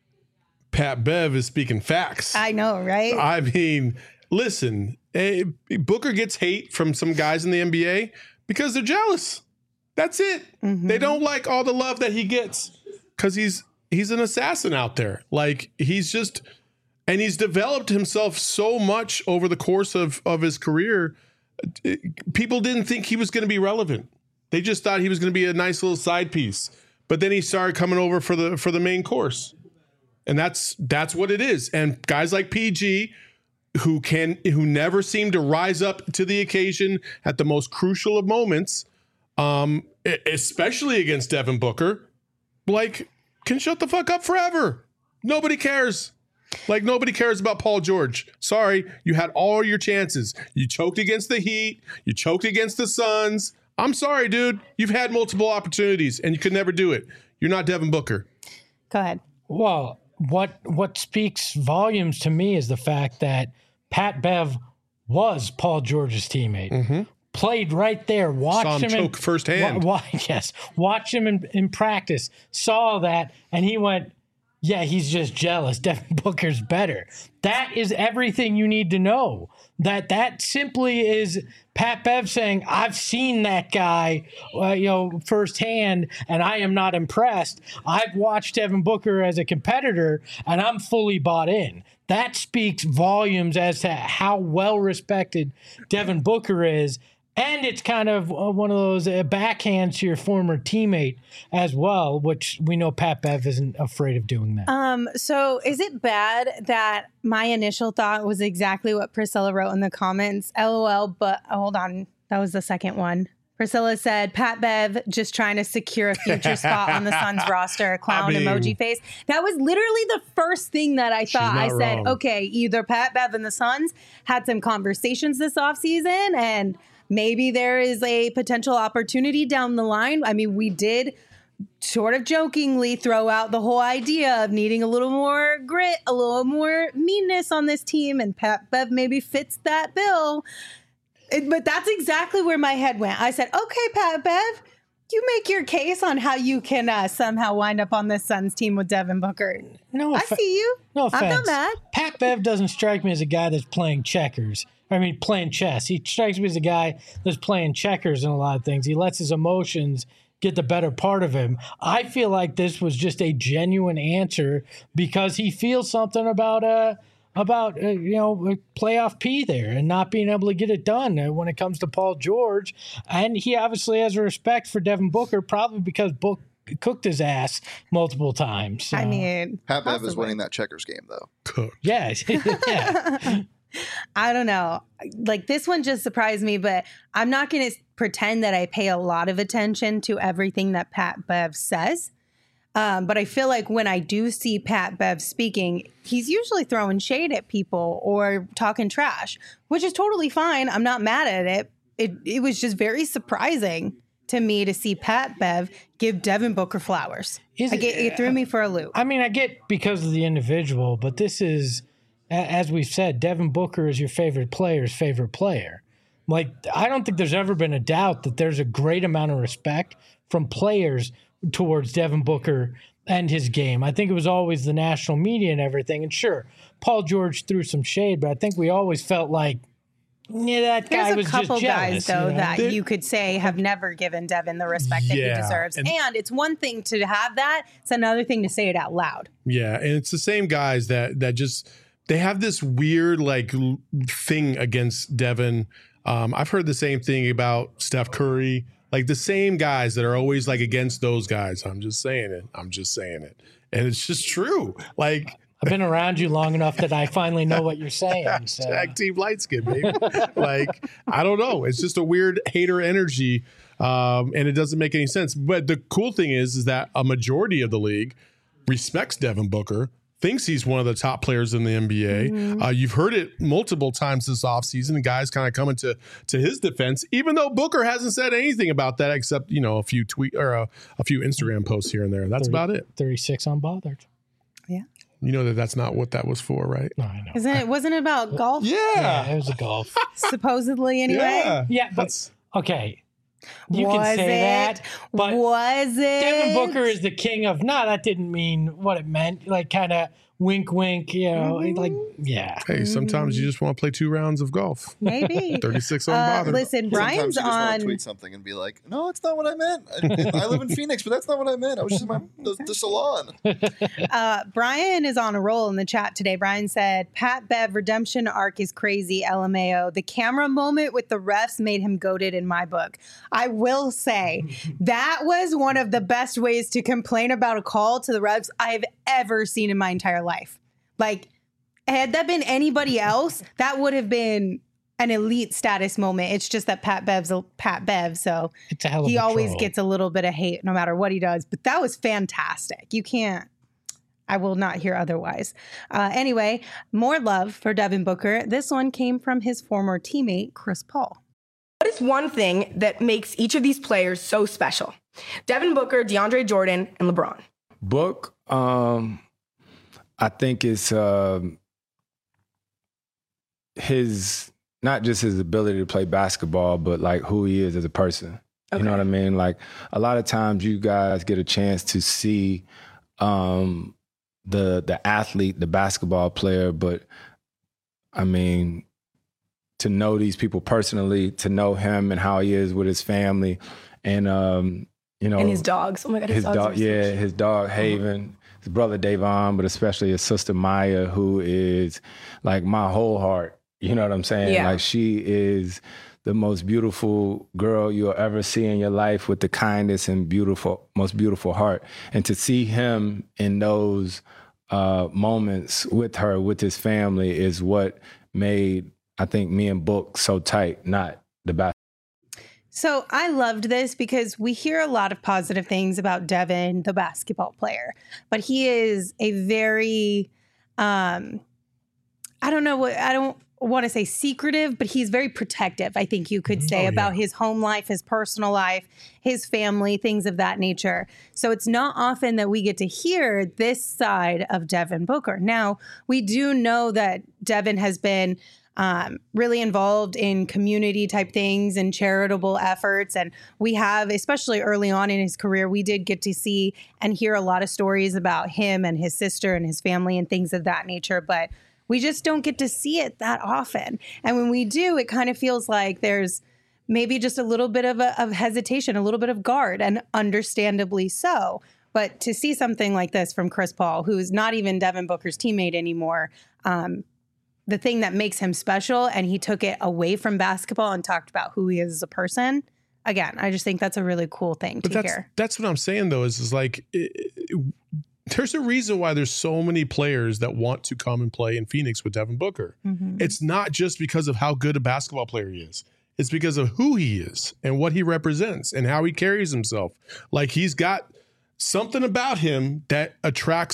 Pat Bev is speaking facts. I know, right? I mean, listen, eh, Booker gets hate from some guys in the N B A because they're jealous. That's it. Mhm. They don't like all the love that he gets because he's he's an assassin out there. Like he's just, and he's developed himself so much over the course of of his career. Eh, People didn't think he was going to be relevant. They just thought he was going to be a nice little side piece. But then he started coming over for the for the main course. And that's that's what it is. And guys like P G who can who never seem to rise up to the occasion at the most crucial of moments, um, e- especially against Devin Booker, like can shut the fuck up forever. Nobody cares. Like nobody cares about Paul George. Sorry, you had all your chances. You choked against the Heat. You choked against the Suns. I'm sorry, dude. You've had multiple opportunities and you could never do it. You're not Devin Booker. Go ahead. Well, what what speaks volumes to me is the fact that Pat Bev was Paul George's teammate. Played right there, watched Saw him him choke in, firsthand. Wa- wa- yes, watched him in, in practice, saw that, and he went, "Yeah, he's just jealous. Devin Booker's better." That is everything you need to know. That that simply is Pat Bev saying, "I've seen that guy, uh, you know, firsthand, and I am not impressed. I've watched Devin Booker as a competitor, and I'm fully bought in." That speaks volumes as to how well respected Devin Booker is. And it's kind of uh, one of those uh, backhands to your former teammate as well, which we know Pat Bev isn't afraid of doing that. Um, so is it bad that my initial thought was exactly what Priscilla wrote in the comments? LOL, but oh, hold on. That was the second one. Priscilla said, Pat Bev just trying to secure a future spot on the Suns roster, clown I mean- emoji face. That was literally the first thing that I thought. I not said, wrong. okay, either Pat Bev and the Suns had some conversations this offseason and maybe there is a potential opportunity down the line. I mean, we did sort of jokingly throw out the whole idea of needing a little more grit, a little more meanness on this team, and Pat Bev maybe fits that bill. It- but that's exactly where my head went. I said, okay, Pat Bev, you make your case on how you can uh, somehow wind up on this Suns team with Devin Booker. No, I offe- see you. no I'm offense. not mad. Pat Bev doesn't strike me as a guy that's playing checkers. I mean, playing chess. He strikes me as a guy that's playing checkers in a lot of things. He lets his emotions get the better part of him. I feel like this was just a genuine answer because he feels something about uh about uh, you know playoff P there and not being able to get it done uh, when it comes to Paul George. And he obviously has a respect for Devin Booker, probably because Book cooked his ass multiple times. So, I mean, Pat Bev is possibly. winning that checkers game though. Cooked. yeah, yeah. I don't know. Like this one just surprised me, but I'm not going to pretend that I pay a lot of attention to everything that Pat Bev says. Um, but I feel like when I do see Pat Bev speaking, he's usually throwing shade at people or talking trash, which is totally fine. I'm not mad at it. It it was just very surprising to me to see Pat Bev give Devin Booker flowers. Is Like, it, it threw me for a loop. I mean, I get because of the individual, but this is, a- as we've said, Devin Booker is your favorite player's favorite player. Like, I don't think there's ever been a doubt that there's a great amount of respect from players towards Devin Booker and his game. I think it was always the national media and everything. And sure, Paul George threw some shade, but I think we always felt like, yeah, that guy There's a was couple just jealous. guys, though, you know? that There- you could say have never given Devin the respect that Yeah, he deserves. and- And, it's one thing to have that. It's another thing to say it out loud. Yeah, and it's the same guys that that just they have this weird like l- thing against Devin. Um, I've heard the same thing about Steph Curry. Like the same guys that are always like against those guys. I'm just saying it. I'm just saying it, and it's just true. Like I've been around you long enough that I finally know what you're saying. So. tag team light skin, baby. Like I don't know. It's just a weird hater energy, um, and it doesn't make any sense. But the cool thing is, is that a majority of the league respects Devin Booker, thinks he's one of the top players in the N B A. Mm-hmm. Uh, you've heard it multiple times this offseason, and guys kind of coming to to his defense, even though Booker hasn't said anything about that except, you know, a few tweet or a, a few Instagram posts here and there. That's about it. thirty-six unbothered. Yeah. You know that that's not what that was for, right? No, I know. Isn't it? Wasn't it about golf? Yeah, it was a golf. Supposedly, anyway. Yeah. Yeah, but That's okay. You Was can say it? that, but Was it? Devin Booker is the king of. No, that didn't mean what it meant. Like kind of wink, wink. You know, like yeah. hey, sometimes you just want to play two rounds of golf. Maybe. thirty-six Uh, unbothered. listen, Sometimes Brian's you just want on. to tweet something and be like, "No, it's not what I meant. I, I live in Phoenix, but that's not what I meant. I was just in my the, the salon." Uh, Brian is on a roll in the chat today. Brian said, Pat Bev redemption arc is crazy, L M A O. The camera moment with the refs made him goated in my book. I will say that was one of the best ways to complain about a call to the refs I've ever seen in my entire life. Like, had that been anybody else, that would have been an elite status moment. It's just that Pat Bev's a Pat Bev, so It's a hell of he a always troll. gets a little bit of hate no matter what he does. But that was fantastic. You can't, I will not hear otherwise. Uh, anyway, more love for Devin Booker. This one came from his former teammate, Chris Paul. What is one thing that makes each of these players so special? Devin Booker, DeAndre Jordan, and LeBron. Book, um, I think it's um his, not just his ability to play basketball, but like who he is as a person. Okay. You know what I mean? Like a lot of times you guys get a chance to see um, the the athlete, the basketball player, but I mean, to know these people personally, to know him and how he is with his family, and um, you know, And his dogs. Oh my God, his, his dogs. dog, are so yeah, cute. his dog Haven, his brother Davon, but especially his sister Maya, who is like my whole heart. You know what I'm saying? Yeah. Like she is the most beautiful girl you'll ever see in your life, with the kindest and beautiful, most beautiful heart. And to see him in those uh, moments with her, with his family, is what made, I think, me and Book so tight, not the basketball. So I loved this because we hear a lot of positive things about Devin, the basketball player, but he is a very, um, I don't know what, I don't want to say secretive, but he's very protective, I think you could say, Oh, yeah. about his home life, his personal life, his family, things of that nature. So it's not often that we get to hear this side of Devin Booker. Now, we do know that Devin has been Um, really involved in community type things and charitable efforts. And we have, especially early on in his career, we did get to see and hear a lot of stories about him and his sister and his family and things of that nature. But we just don't get to see it that often. And when we do, it kind of feels like there's maybe just a little bit of, a, of hesitation, a little bit of guard, and understandably so. But to see something like this from Chris Paul, who's not even Devin Booker's teammate anymore, um, the thing that makes him special, and he took it away from basketball and talked about who he is as a person. Again, I just think that's a really cool thing But to that's hear. that's what I'm saying though. Is is like it, it, there's a reason why there's so many players that want to come and play in Phoenix with Devin Booker. Mhm. It's not just because of how good a basketball player he is. It's because of who he is and what he represents and how he carries himself. Like he's got something about him that attracts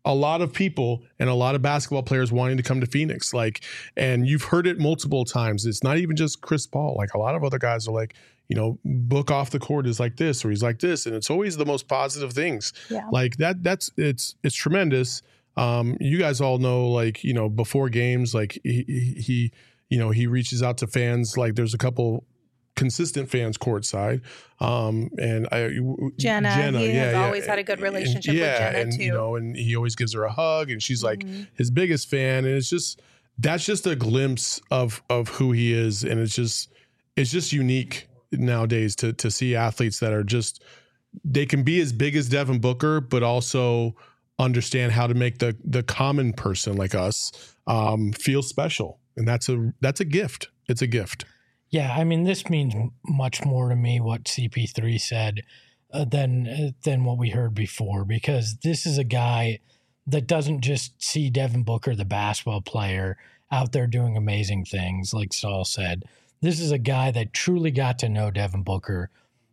a lot of people and a lot of basketball players wanting to come to Phoenix. Like, and you've heard it multiple times. It's not even just Chris Paul. Like, a lot of other guys are like, you know, Book off the court is like this, or he's like this. And it's always the most positive things. Yeah. Like that, that's, it's, it's tremendous. Um, you guys all know, like, you know, before games, like he, he, he you know, he reaches out to fans. Like, there's a couple consistent fans courtside. Um, and I, Jenna, Jenna he yeah, has yeah. always had a good relationship and, yeah, with Jenna and, too. You know, and he always gives her a hug, and she's like mm-hmm. his biggest fan. And it's just, that's just a glimpse of, of who he is. And it's just, it's just unique nowadays to, to see athletes that are just, they can be as big as Devin Booker, but also understand how to make the, the common person like us, um, feel special. And that's a, that's a gift. It's a gift. Yeah, I mean, this means much more to me what C P three said uh, than uh, than what we heard before, because this is a guy that doesn't just see Devin Booker, the basketball player, out there doing amazing things, like Saul said. This is a guy that truly got to know Devin Booker,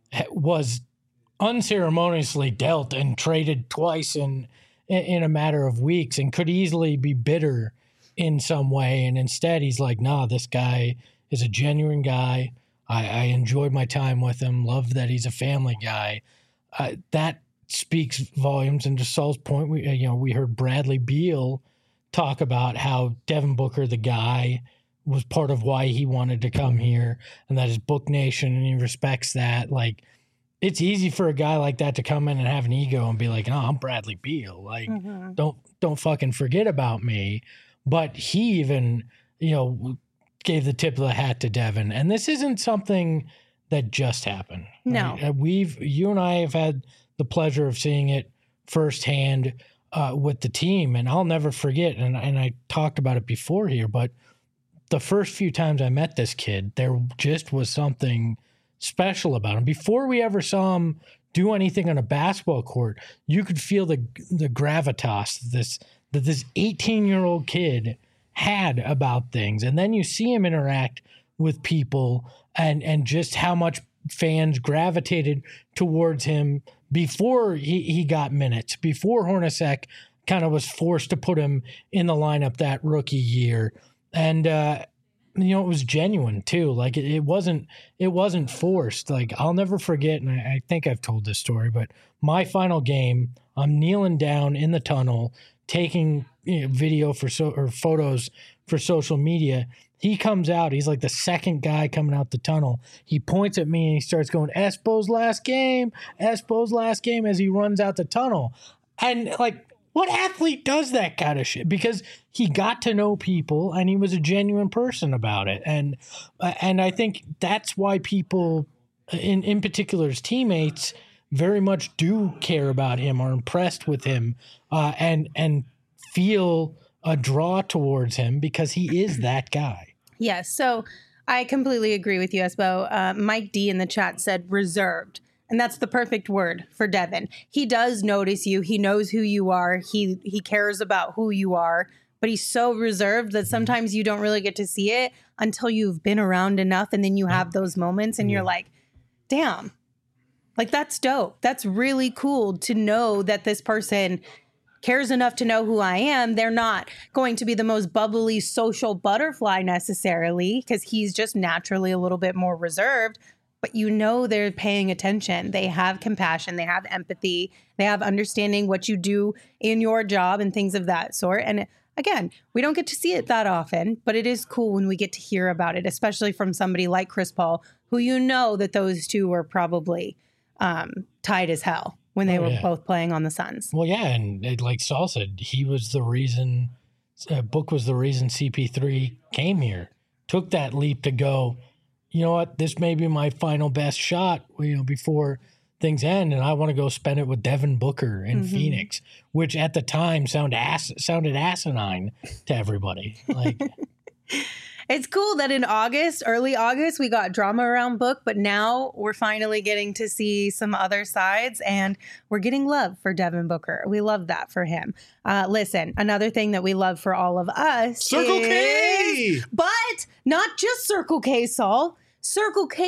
was unceremoniously dealt and traded twice in in a matter of weeks, and could easily be bitter in some way. And instead, he's like, nah, this guy is a genuine guy. I, I enjoyed my time with him. Love that he's a family guy. Uh, that speaks volumes. And to Saul's point, we you know we heard Bradley Beal talk about how Devin Booker, the guy, was part of why he wanted to come here, and that is Book Nation, and he respects that. Like, it's easy for a guy like that to come in and have an ego and be like, "Oh, I'm Bradley Beal. Like, mm-hmm. don't don't fucking forget about me." But he even, you know, gave the tip of the hat to Devin. And this isn't something that just happened. No. Right? We've, you and I have had the pleasure of seeing it firsthand uh, with the team. And I'll never forget, and, and I talked about it before here, but the first few times I met this kid, there just was something special about him. Before we ever saw him do anything on a basketball court, you could feel the the gravitas this that this eighteen-year-old kid had about things. And then you see him interact with people, and and just how much fans gravitated towards him before he, he got minutes, before Hornacek kind of was forced to put him in the lineup that rookie year. And uh you know, it was genuine too. Like, it, it wasn't it wasn't forced. Like, I'll never forget, and I, I think I've told this story, but my final game, I'm kneeling down in the tunnel taking, you know, video for so or photos for social media. He comes out. He's like the second guy coming out the tunnel. He points at me and he starts going, "Espo's last game, Espo's last game," as he runs out the tunnel. And like, what athlete does that kind of shit? Because he got to know people and he was a genuine person about it. And uh, and I think that's why people, in in particular his teammates, very much do care about him, are impressed with him, uh, and and feel a draw towards him because he is that guy. Yes. So I completely agree with you, Espo. Uh, Mike D in the chat said reserved. And that's the perfect word for Devin. He does notice you. He knows who you are. He he cares about who you are. But he's so reserved that sometimes you don't really get to see it until you've been around enough. And then you have those moments and you're like, damn, like, that's dope. That's really cool to know that this person cares enough to know who I am. They're not going to be the most bubbly social butterfly necessarily, because he's just naturally a little bit more reserved. But you know they're paying attention. They have compassion. They have empathy. They have understanding what you do in your job and things of that sort. And again, we don't get to see it that often, but it is cool when we get to hear about it, especially from somebody like Chris Paul, who you know that those two were probably um, tight as hell when they oh, were yeah. both playing on the Suns. Well, yeah, and it, like Saul said, he was the reason, uh, Book was the reason C P three came here, took that leap to go, you know what, this may be my final best shot, you know, before things end, and I want to go spend it with Devin Booker in mm-hmm. Phoenix, which at the time sounded ass sounded asinine to everybody. Like, it's cool that in August, early August, we got drama around Book, but now we're finally getting to see some other sides, and we're getting love for Devin Booker. We love that for him. Uh, listen, another thing that we love for all of us, Circle is, K, but not just Circle K, Saul. Circle K's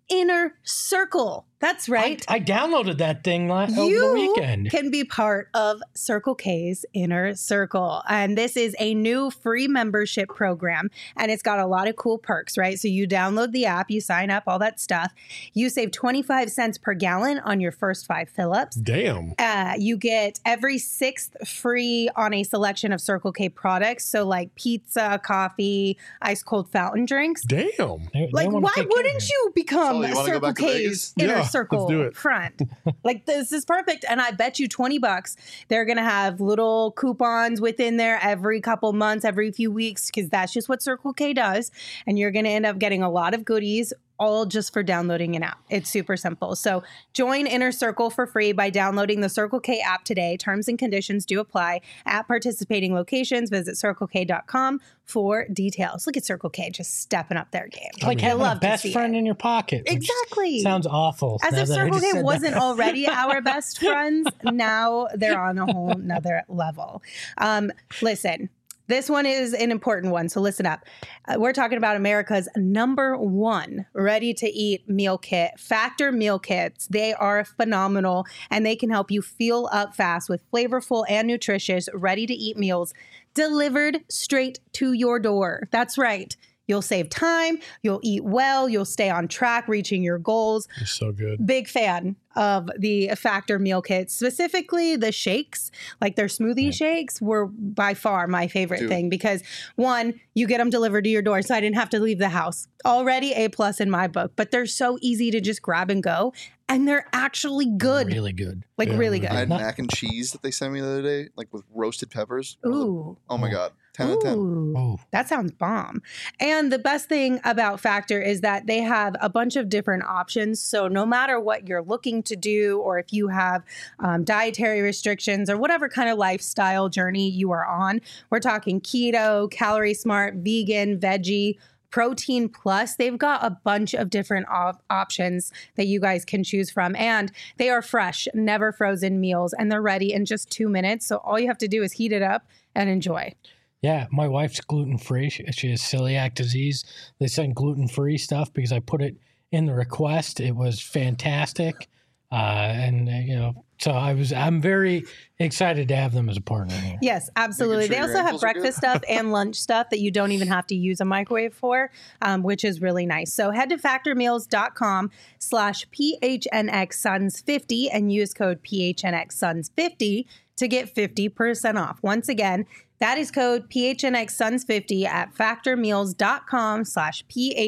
Inner Circle. That's right. I, I downloaded that thing last over You the weekend. can be part of Circle K's Inner Circle. And this is a new free membership program. And it's got a lot of cool perks, right? So you download the app, you sign up, all that stuff. You save twenty-five cents per gallon on your first five fill-ups. Damn. Uh, you get every sixth free on a selection of Circle K products. So like pizza, coffee, ice cold fountain drinks. Damn. They- they Like, wanna why take care of wouldn't you become So you wanna go Circle back to K's Vegas? Inner Yeah, let's Circle do it. friend? Like, this is perfect. And I bet you twenty bucks, they're going to have little coupons within there every couple months, every few weeks, because that's just what Circle K does. And you're going to end up getting a lot of goodies, all just for downloading an app. It's super simple. So join Inner Circle for free by downloading the Circle K app today. Terms and conditions do apply at participating locations. Visit circle k dot com for details. Look at Circle K just stepping up their game. It's like I having a love to best see friend it. in your pocket. which Exactly. Sounds awful. As now if that I Circle just K said wasn't that. already our best friends, now they're on a whole nother level. Um, listen, this one is an important one, so listen up. Uh, we're talking about America's number one ready-to-eat meal kit, Factor Meal Kits. They are phenomenal, and they can help you fuel up fast with flavorful and nutritious ready-to-eat meals delivered straight to your door. That's right. You'll save time, you'll eat well, you'll stay on track, reaching your goals. It's so good. Big fan of the Factor meal kits, specifically the shakes, like their smoothie Yeah. shakes were by far my favorite Dude. thing because one, you get them delivered to your door, so I didn't have to leave the house. Already A plus in my book, but they're so easy to just grab and go, and they're actually good, Really good. like Yeah, really really good. I had Not- mac and cheese that they sent me the other day, like with roasted peppers. Ooh. Oh my god, ten out of ten. Ooh. Oh, That sounds bomb. And the best thing about Factor is that they have a bunch of different options. So no matter what you're looking to do, or if you have um, dietary restrictions or whatever kind of lifestyle journey you are on, we're talking keto, calorie smart, vegan, veggie, protein plus. They've got a bunch of different op- options that you guys can choose from. And they are fresh, never frozen meals, and they're ready in just two minutes. So all you have to do is heat it up and enjoy. yeah. My wife's gluten free. She, she has celiac disease. They sent gluten free stuff because I put it in the request. It was fantastic. Uh, and uh, you know, so I was, I'm very excited to have them as a partner here. Yes, absolutely. Making They sure also your have ankles are good. breakfast stuff and lunch stuff that you don't even have to use a microwave for, um, which is really nice. So head to factormeals.com slash PHNXSons50 and use code PHNXSons50 to get fifty percent off. Once again, that is code PHNXSons50 at factormeals.com slash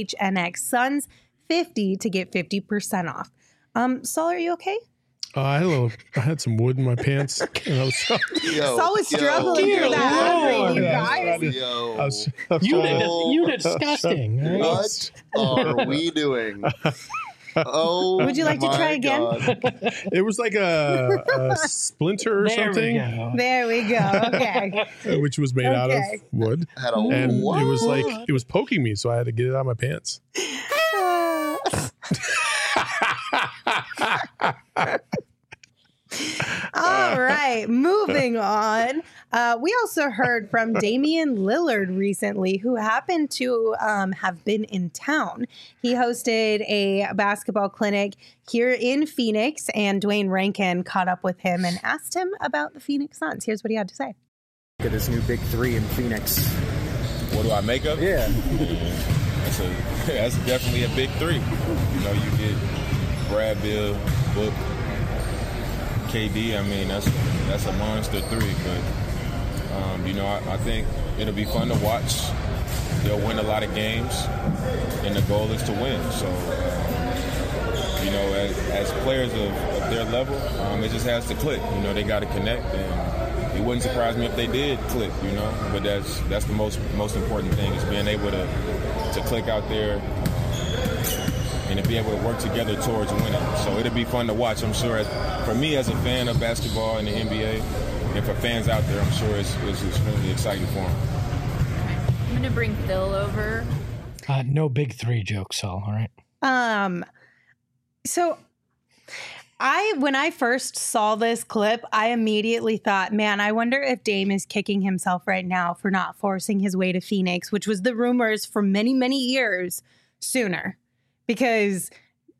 PHNXSons50 to get fifty percent off. Um, Saul, are you okay? Uh, I had a little. I had some wood in my pants. And I was, Yo, Saul was yo, struggling Dear through that Lord. hungry, you Yeah, guys. Yo, I was, I was You trying did, to- you disgusting. Right? what are we doing? Oh, Would you like to my try again? God. It was like a, a splinter or There we something, go. There we go. Okay. which was made out of Okay. wood, Had a and what? it was like it was poking me, so I had to get it out of my pants. All right, moving on. Uh, we also heard from Damian Lillard recently, who happened to um, have been in town. He hosted a basketball clinic here in Phoenix, and Dwayne Rankin caught up with him and asked him about the Phoenix Suns. Here's what he had to say. Look at this new big three in Phoenix. What do I make of it? Yeah. That's a that's definitely a big three. You know, you get Brad Bill, Book, K D. I mean, that's that's a monster three. But um, you know, I, I think it'll be fun to watch. They'll win a lot of games, and the goal is to win. So, um, you know, as, as players of, of their level, um, it just has to click. You know, they got to connect, and it wouldn't surprise me if they did click. You know, but that's that's the most most important thing is being able to to click out there. And to be able to work together towards winning. So it'll be fun to watch, I'm sure. As, for me, as a fan of basketball and the N B A, and for fans out there, I'm sure it's, it's extremely exciting for them. I'm going to bring Phil over. Uh, no big three jokes, Saul. All right. Um, so I, when I first saw this clip, I immediately thought, man, I wonder if Dame is kicking himself right now for not forcing his way to Phoenix, which was the rumors for many, many years sooner. Because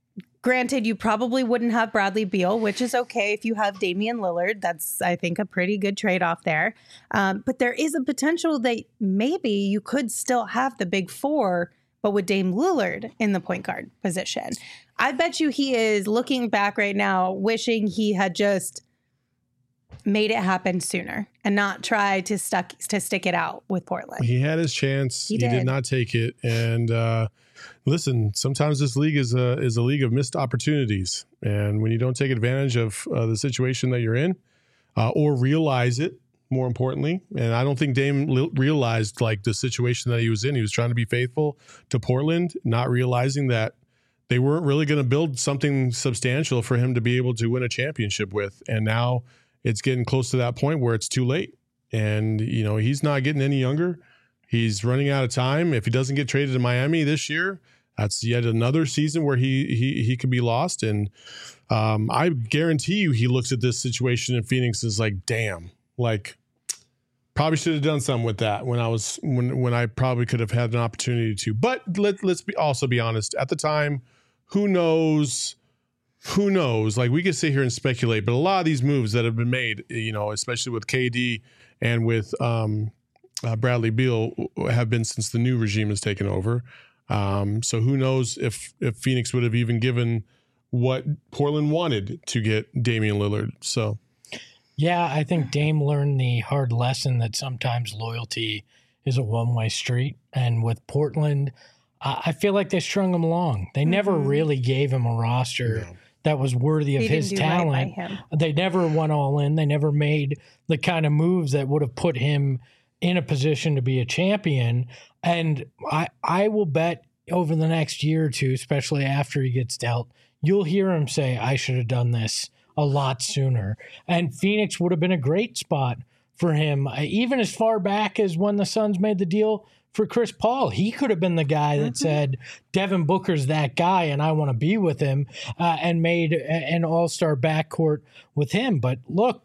Granted, you probably wouldn't have Bradley Beal, which is okay if you have Damian Lillard. That's, I think, a pretty good trade-off there. Um, but there is a potential that maybe you could still have the big four, but with Dame Lillard in the point guard position. I bet you he is looking back right now, wishing he had just made it happen sooner and not try to stuck to stick it out with Portland. He had his chance. He He, did. did not take it. And uh, listen, sometimes this league is a is a league of missed opportunities. And when you don't take advantage of uh, the situation that you're in, uh, or realize it, more importantly, and I don't think Dame li- realized like the situation that he was in. He was trying to be faithful to Portland, not realizing that they weren't really going to build something substantial for him to be able to win a championship with. And now it's getting close to that point where it's too late. And, you know, he's not getting any younger. He's running out of time. If he doesn't get traded to Miami this year, that's yet another season where he he he could be lost. And um, I guarantee you he looks at this situation in Phoenix and is like, damn, like probably should have done something with that when I was when when I probably could have had an opportunity to. But let, let's be also be honest. At the time, who knows? Who knows? Like, we could sit here and speculate, but a lot of these moves that have been made, you know, especially with K D and with um, uh, Bradley Beal, have been since the new regime has taken over. Um, so who knows if if Phoenix would have even given what Portland wanted to get Damian Lillard. So, yeah, I think Dame learned the hard lesson that sometimes loyalty is a one-way street. And with Portland, I I feel like they strung him along. They never Mhm. really gave him a roster No. that was worthy of He his didn't do right by talent. him. They never went all in. They never made the kind of moves that would have put him in a position to be a champion. And I, I will bet over the next year or two, especially after he gets dealt, you'll hear him say, I should have done this a lot sooner. And Phoenix would have been a great spot for him, uh, even as far back as when the Suns made the deal for Chris Paul. He could have been the guy that Mm-hmm. said, Devin Booker's that guy and I want to be with him, uh, and made a- an all-star backcourt with him. But look,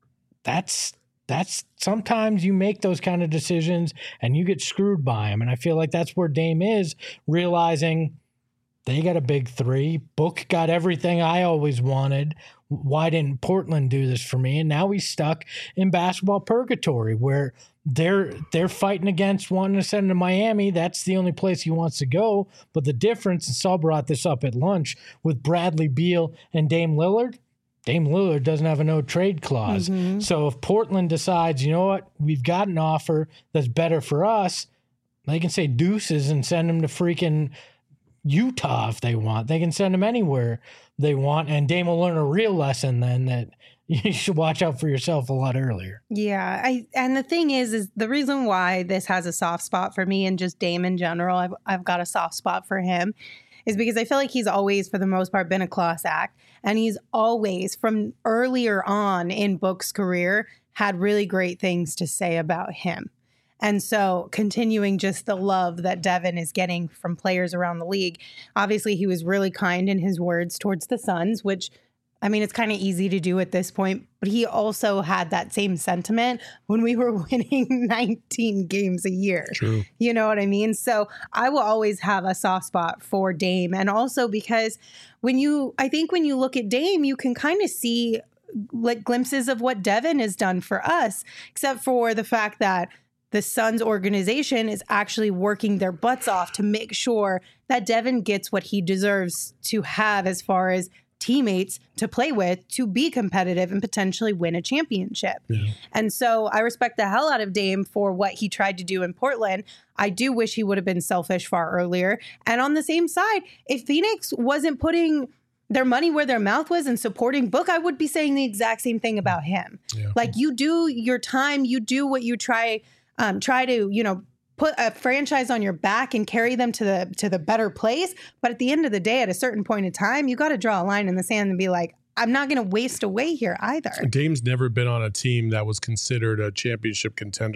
that's that's sometimes you make those kind of decisions and you get screwed by them. And I feel like that's where Dame is, realizing they got a big three. Book got everything I always wanted. Why didn't Portland do this for me? And now he's stuck in basketball purgatory where they're they're fighting against wanting to send him to Miami. That's the only place he wants to go. But the difference, and Saul brought this up at lunch, with Bradley Beal and Dame Lillard, Dame Lillard doesn't have a no trade clause. Mhm. So if Portland decides, you know what, we've got an offer that's better for us, they can say deuces and send him to freaking Utah if they want. They can send him anywhere they want. And Dame will learn a real lesson then that you should watch out for yourself a lot earlier. Yeah, I and the thing is, is the reason why this has a soft spot for me and just Dame in general, I've I've got a soft spot for him, is because I feel like he's always, for the most part, been a class act, and he's always, from earlier on in Book's career, had really great things to say about him. And so continuing just the love that Devin is getting from players around the league. Obviously, he was really kind in his words towards the Suns, which, I mean, it's kind of easy to do at this point. But he also had that same sentiment when we were winning nineteen games a year. True. You know what I mean? So I will always have a soft spot for Dame. And also because when you, I think when you look at Dame, you can kind of see like glimpses of what Devin has done for us, except for the fact that the Suns organization is actually working their butts off to make sure that Devin gets what he deserves to have as far as teammates to play with, to be competitive and potentially win a championship. Yeah. And so I respect the hell out of Dame for what he tried to do in Portland. I do wish he would have been selfish far earlier. And on the same side, if Phoenix wasn't putting their money where their mouth was and supporting Book, I would be saying the exact same thing about him. Yeah. Like, you do your time, you do what you try Um, try to, you know, put a franchise on your back and carry them to the to the better place. But at the end of the day, at a certain point in time, you got to draw a line in the sand and be like, I'm not going to waste away here either. Dame's never been on a team that was considered a championship contender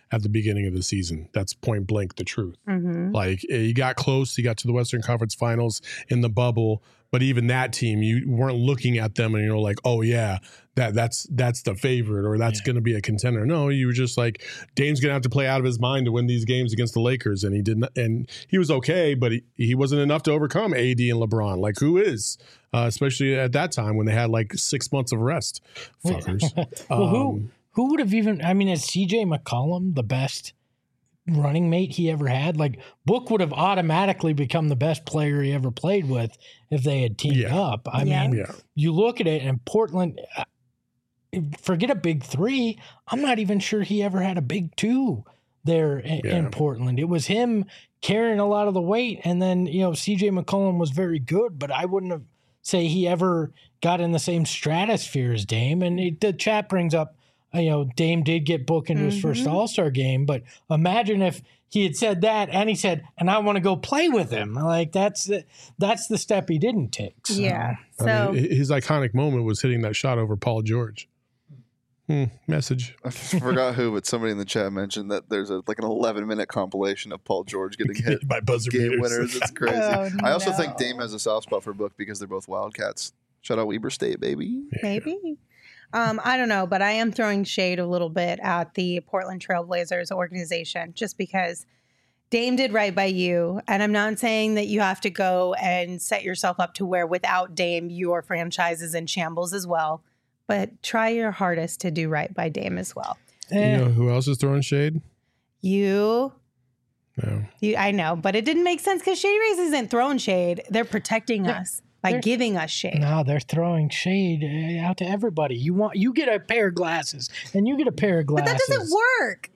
at the beginning of the season. That's point blank the truth. Mm-hmm. Like, you got close, you got to the Western Conference Finals in the bubble, but even that team, you weren't looking at them and you're like, oh yeah, that that's that's the favorite or that's yeah. going to be a contender. No, you were just like, Dame's going to have to play out of his mind to win these games against the Lakers, and he didn't. And he was okay, but he, he wasn't enough to overcome A D and LeBron. Like, who is? Uh, especially at that time when they had like six months of rest. Fuckers. well, um, who who would have even? I mean, is C J McCollum the best running mate he ever had? Like, Book would have automatically become the best player he ever played with if they had teamed Yeah. up. I Yeah. mean, Yeah. you look at it, and Portland, uh, forget a big three. I'm not even sure he ever had a big two there in, Yeah. in Portland. It was him carrying a lot of the weight, and then, you know, C J McCollum was very good, but I wouldn't have say he ever got in the same stratosphere as Dame. And it, the chat brings up, you know, Dame did get booked into his first Mhm. All-Star game, but imagine if he had said that and he said, and I want to go play with him. Like, that's the, that's the step he didn't take. So. Yeah. I So mean, his iconic moment was hitting that shot over Paul George. Hmm, message. I forgot who, but somebody in the chat mentioned that there's a like an eleven minute compilation of Paul George getting hit by buzzer game beaters. winners. It's crazy. Oh, I also no. think Dame has a soft spot for Book because they're both Wildcats. Shout out Weber State, baby. maybe. Um, I don't know, but I am throwing shade a little bit at the Portland Trailblazers organization just because Dame did right by you. And I'm not saying that you have to go and set yourself up to where without Dame, your franchise is in shambles as well. But try your hardest to do right by Dame as well. You know who else is throwing shade? You, No. you I know, but it didn't make sense because Shady Rays isn't throwing shade. They're protecting Yeah, us by they're- giving us shade. No, they're throwing shade uh, out to everybody. You want you get a pair of glasses, and you get a pair of But glasses. that doesn't work.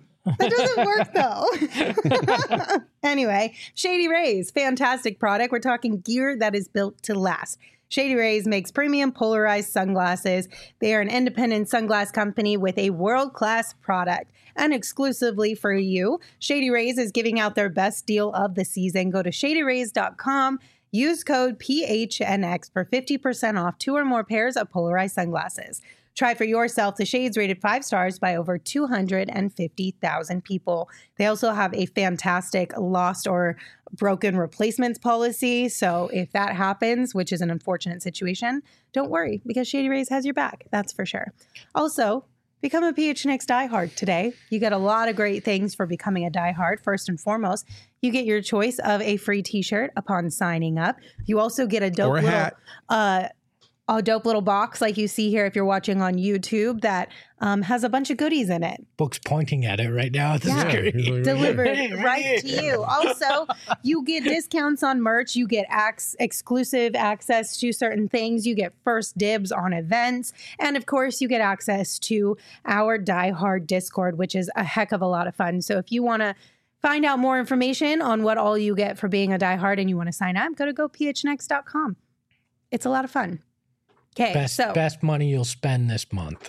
That doesn't work though. Anyway, Shady Rays, fantastic product. We're talking gear that is built to last. Shady Rays makes premium polarized sunglasses. They are an independent sunglass company with a world-class product. And exclusively for you, Shady Rays is giving out their best deal of the season. Go to shady rays dot com. Use code P H N X for fifty percent off two or more pairs of polarized sunglasses. Try for yourself the shades rated five stars by over two hundred fifty thousand people. They also have a fantastic lost or broken replacements policy. So if that happens, which is an unfortunate situation, don't worry because Shady Rays has your back. That's for sure. Also, become a P H N X diehard today. You get a lot of great things for becoming a diehard. First and foremost, you get your choice of a free t-shirt upon signing up. You also get a dope Or a little hat. uh a dope little box like you see here if you're watching on YouTube that um, has a bunch of goodies in it. Book's pointing at it right now. At the Yeah. screen. He's like, Delivered Hey, right right here. to you. Also, you get discounts on merch. You get ac- exclusive access to certain things. You get first dibs on events. And of course, you get access to our Die Hard Discord, which is a heck of a lot of fun. So if you want to find out more information on what all you get for being a Die Hard and you want to sign up, go to go p h n x dot com. It's a lot of fun. Okay, Best so best money you'll spend this month.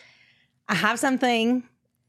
I have something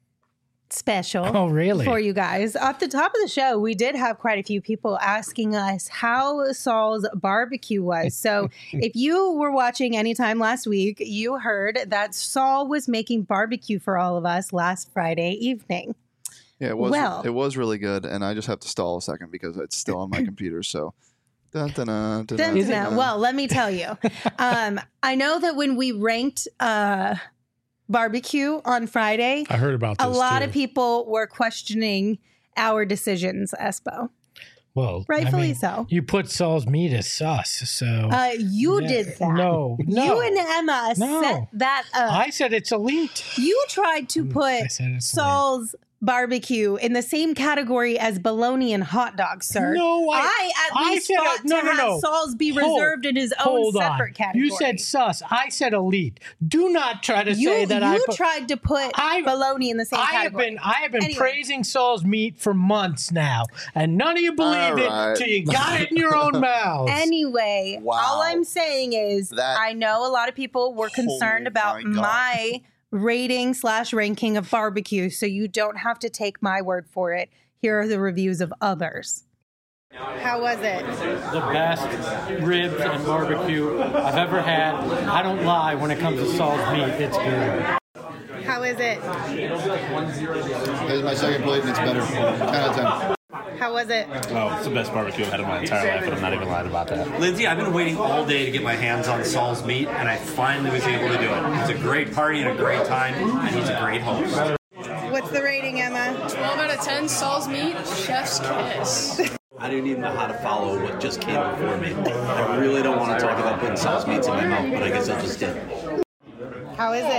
special Oh, really? for you guys. Off the top of the show, we did have quite a few people asking us how Saul's barbecue was. So if you were watching anytime last week, you heard that Saul was making barbecue for all of us last Friday evening. Yeah, it was. Well- it was really good, and I just have to stall a second because it's still on my computer. So, dun, dun, dun, dun, Dun, dun, dun, dun. dun. Well, let me tell you. um, I know that when we ranked uh, barbecue on Friday, I heard about this. a lot too. of people were questioning our decisions, Espo. Well, Rightfully I mean, so. You put Saul's meat as sus, so Uh, you Yeah. did that. No, no. You and Emma No. set that up. I said it's elite. you tried to put I said it's Saul's barbecue in the same category as bologna and hot dogs, sir. No, I- I at I least said it- fought no, to no, have no. Saul's be Hold- reserved in his own Hold separate on. category. You said sus. I said elite. Do not try to you, say that you I put, tried to put I- bologna in the same I have category. been I have been Anyway. praising Saul's meat for months now, and none of you believed All right. it till you got it in your own mouths. Anyway, Wow. all I'm saying is That- I know a lot of people were concerned Oh about my God. my rating slash ranking of barbecue, so you don't have to take my word for it. Here are the reviews of others. How was it? The best ribs and barbecue I've ever had. I don't lie when it comes to Saul's meat. It's good. How is it? This is my second plate, and it's better. ten out of ten. How was it? Oh, it's the best barbecue I've had in my entire life, and I'm not even lying about that. Lindsay, I've been waiting all day to get my hands on Saul's meat, and I finally was able to do it. It's a great party and a great time, and he's a great host. What's the rating, Emma? twelve out of ten, Saul's meat, chef's kiss. I don't even know how to follow what just came before me. I really don't want to talk about putting Saul's meats in my mouth, but I guess I just did. How is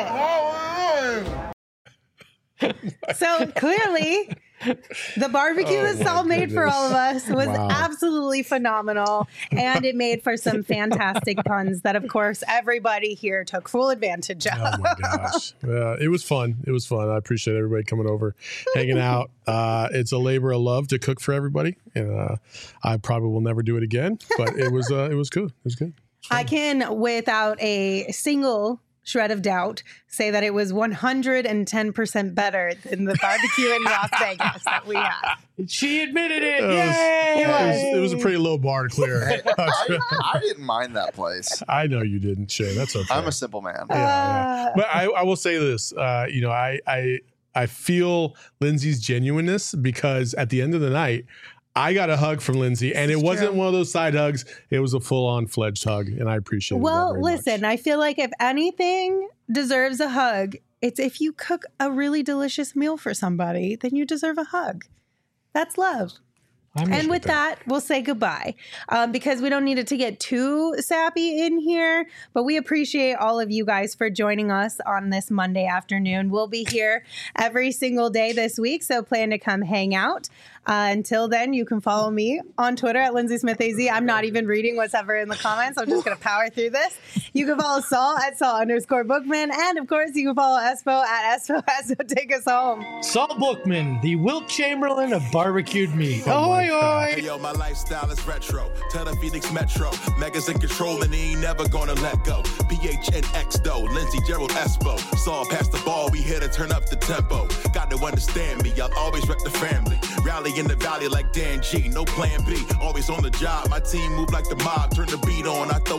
it? So clearly, the barbecue Oh, that Saul my made for goodness. all of us was Wow. absolutely phenomenal. And it made for some fantastic puns that, of course, everybody here took full advantage of. Oh my gosh. Yeah, it was fun. It was fun. I appreciate everybody coming over, hanging out. Uh, it's a labor of love to cook for everybody. And uh, I probably will never do it again, but it was uh, it was good. It was good. I can, without a single shred of doubt, say that it was one hundred ten percent better than the barbecue in Las Vegas that we had. She admitted it. It was, Yay! it was, it was a pretty low bar to clear. Hey, I, I didn't mind that place. I know you didn't, Shane. That's okay. I'm a simple man. Yeah, yeah. But I, I will say this. Uh, you know, I, I I feel Lindsay's genuineness because at the end of the night, I got a hug from Lindsay, and it wasn't one of those side hugs. It was a full-on fledged hug, and I appreciate it. Well, listen, I feel like if anything deserves a hug, it's if you cook a really delicious meal for somebody, then you deserve a hug. That's love. And with that, we'll say goodbye um, because we don't need it to get too sappy in here. But we appreciate all of you guys for joining us on this Monday afternoon. We'll be here every single day this week, so plan to come hang out. Uh, until then, you can follow me on Twitter at Lindsay Smith A Z. I'm not even reading what's ever in the comments. I'm just going to power through this. You can follow Saul at Saul underscore Bookman. And, of course, you can follow Espo at Espo Espo. Take us home. Saul Bookman, the Wilt Chamberlain of barbecued meat. Oh Ahoy, ahoy. Hey, yo, my lifestyle is retro. Tell the Phoenix Metro. Megas in control and he ain't never gonna let go. P H N X though. Lindsay Gerald Espo. Saw past the ball. We here to turn up the tempo. Got to understand me. I'll always rep the family. Rally in the valley like Dan G. No plan B. Always on the job. My team move like the mob. Turn the beat on. I throw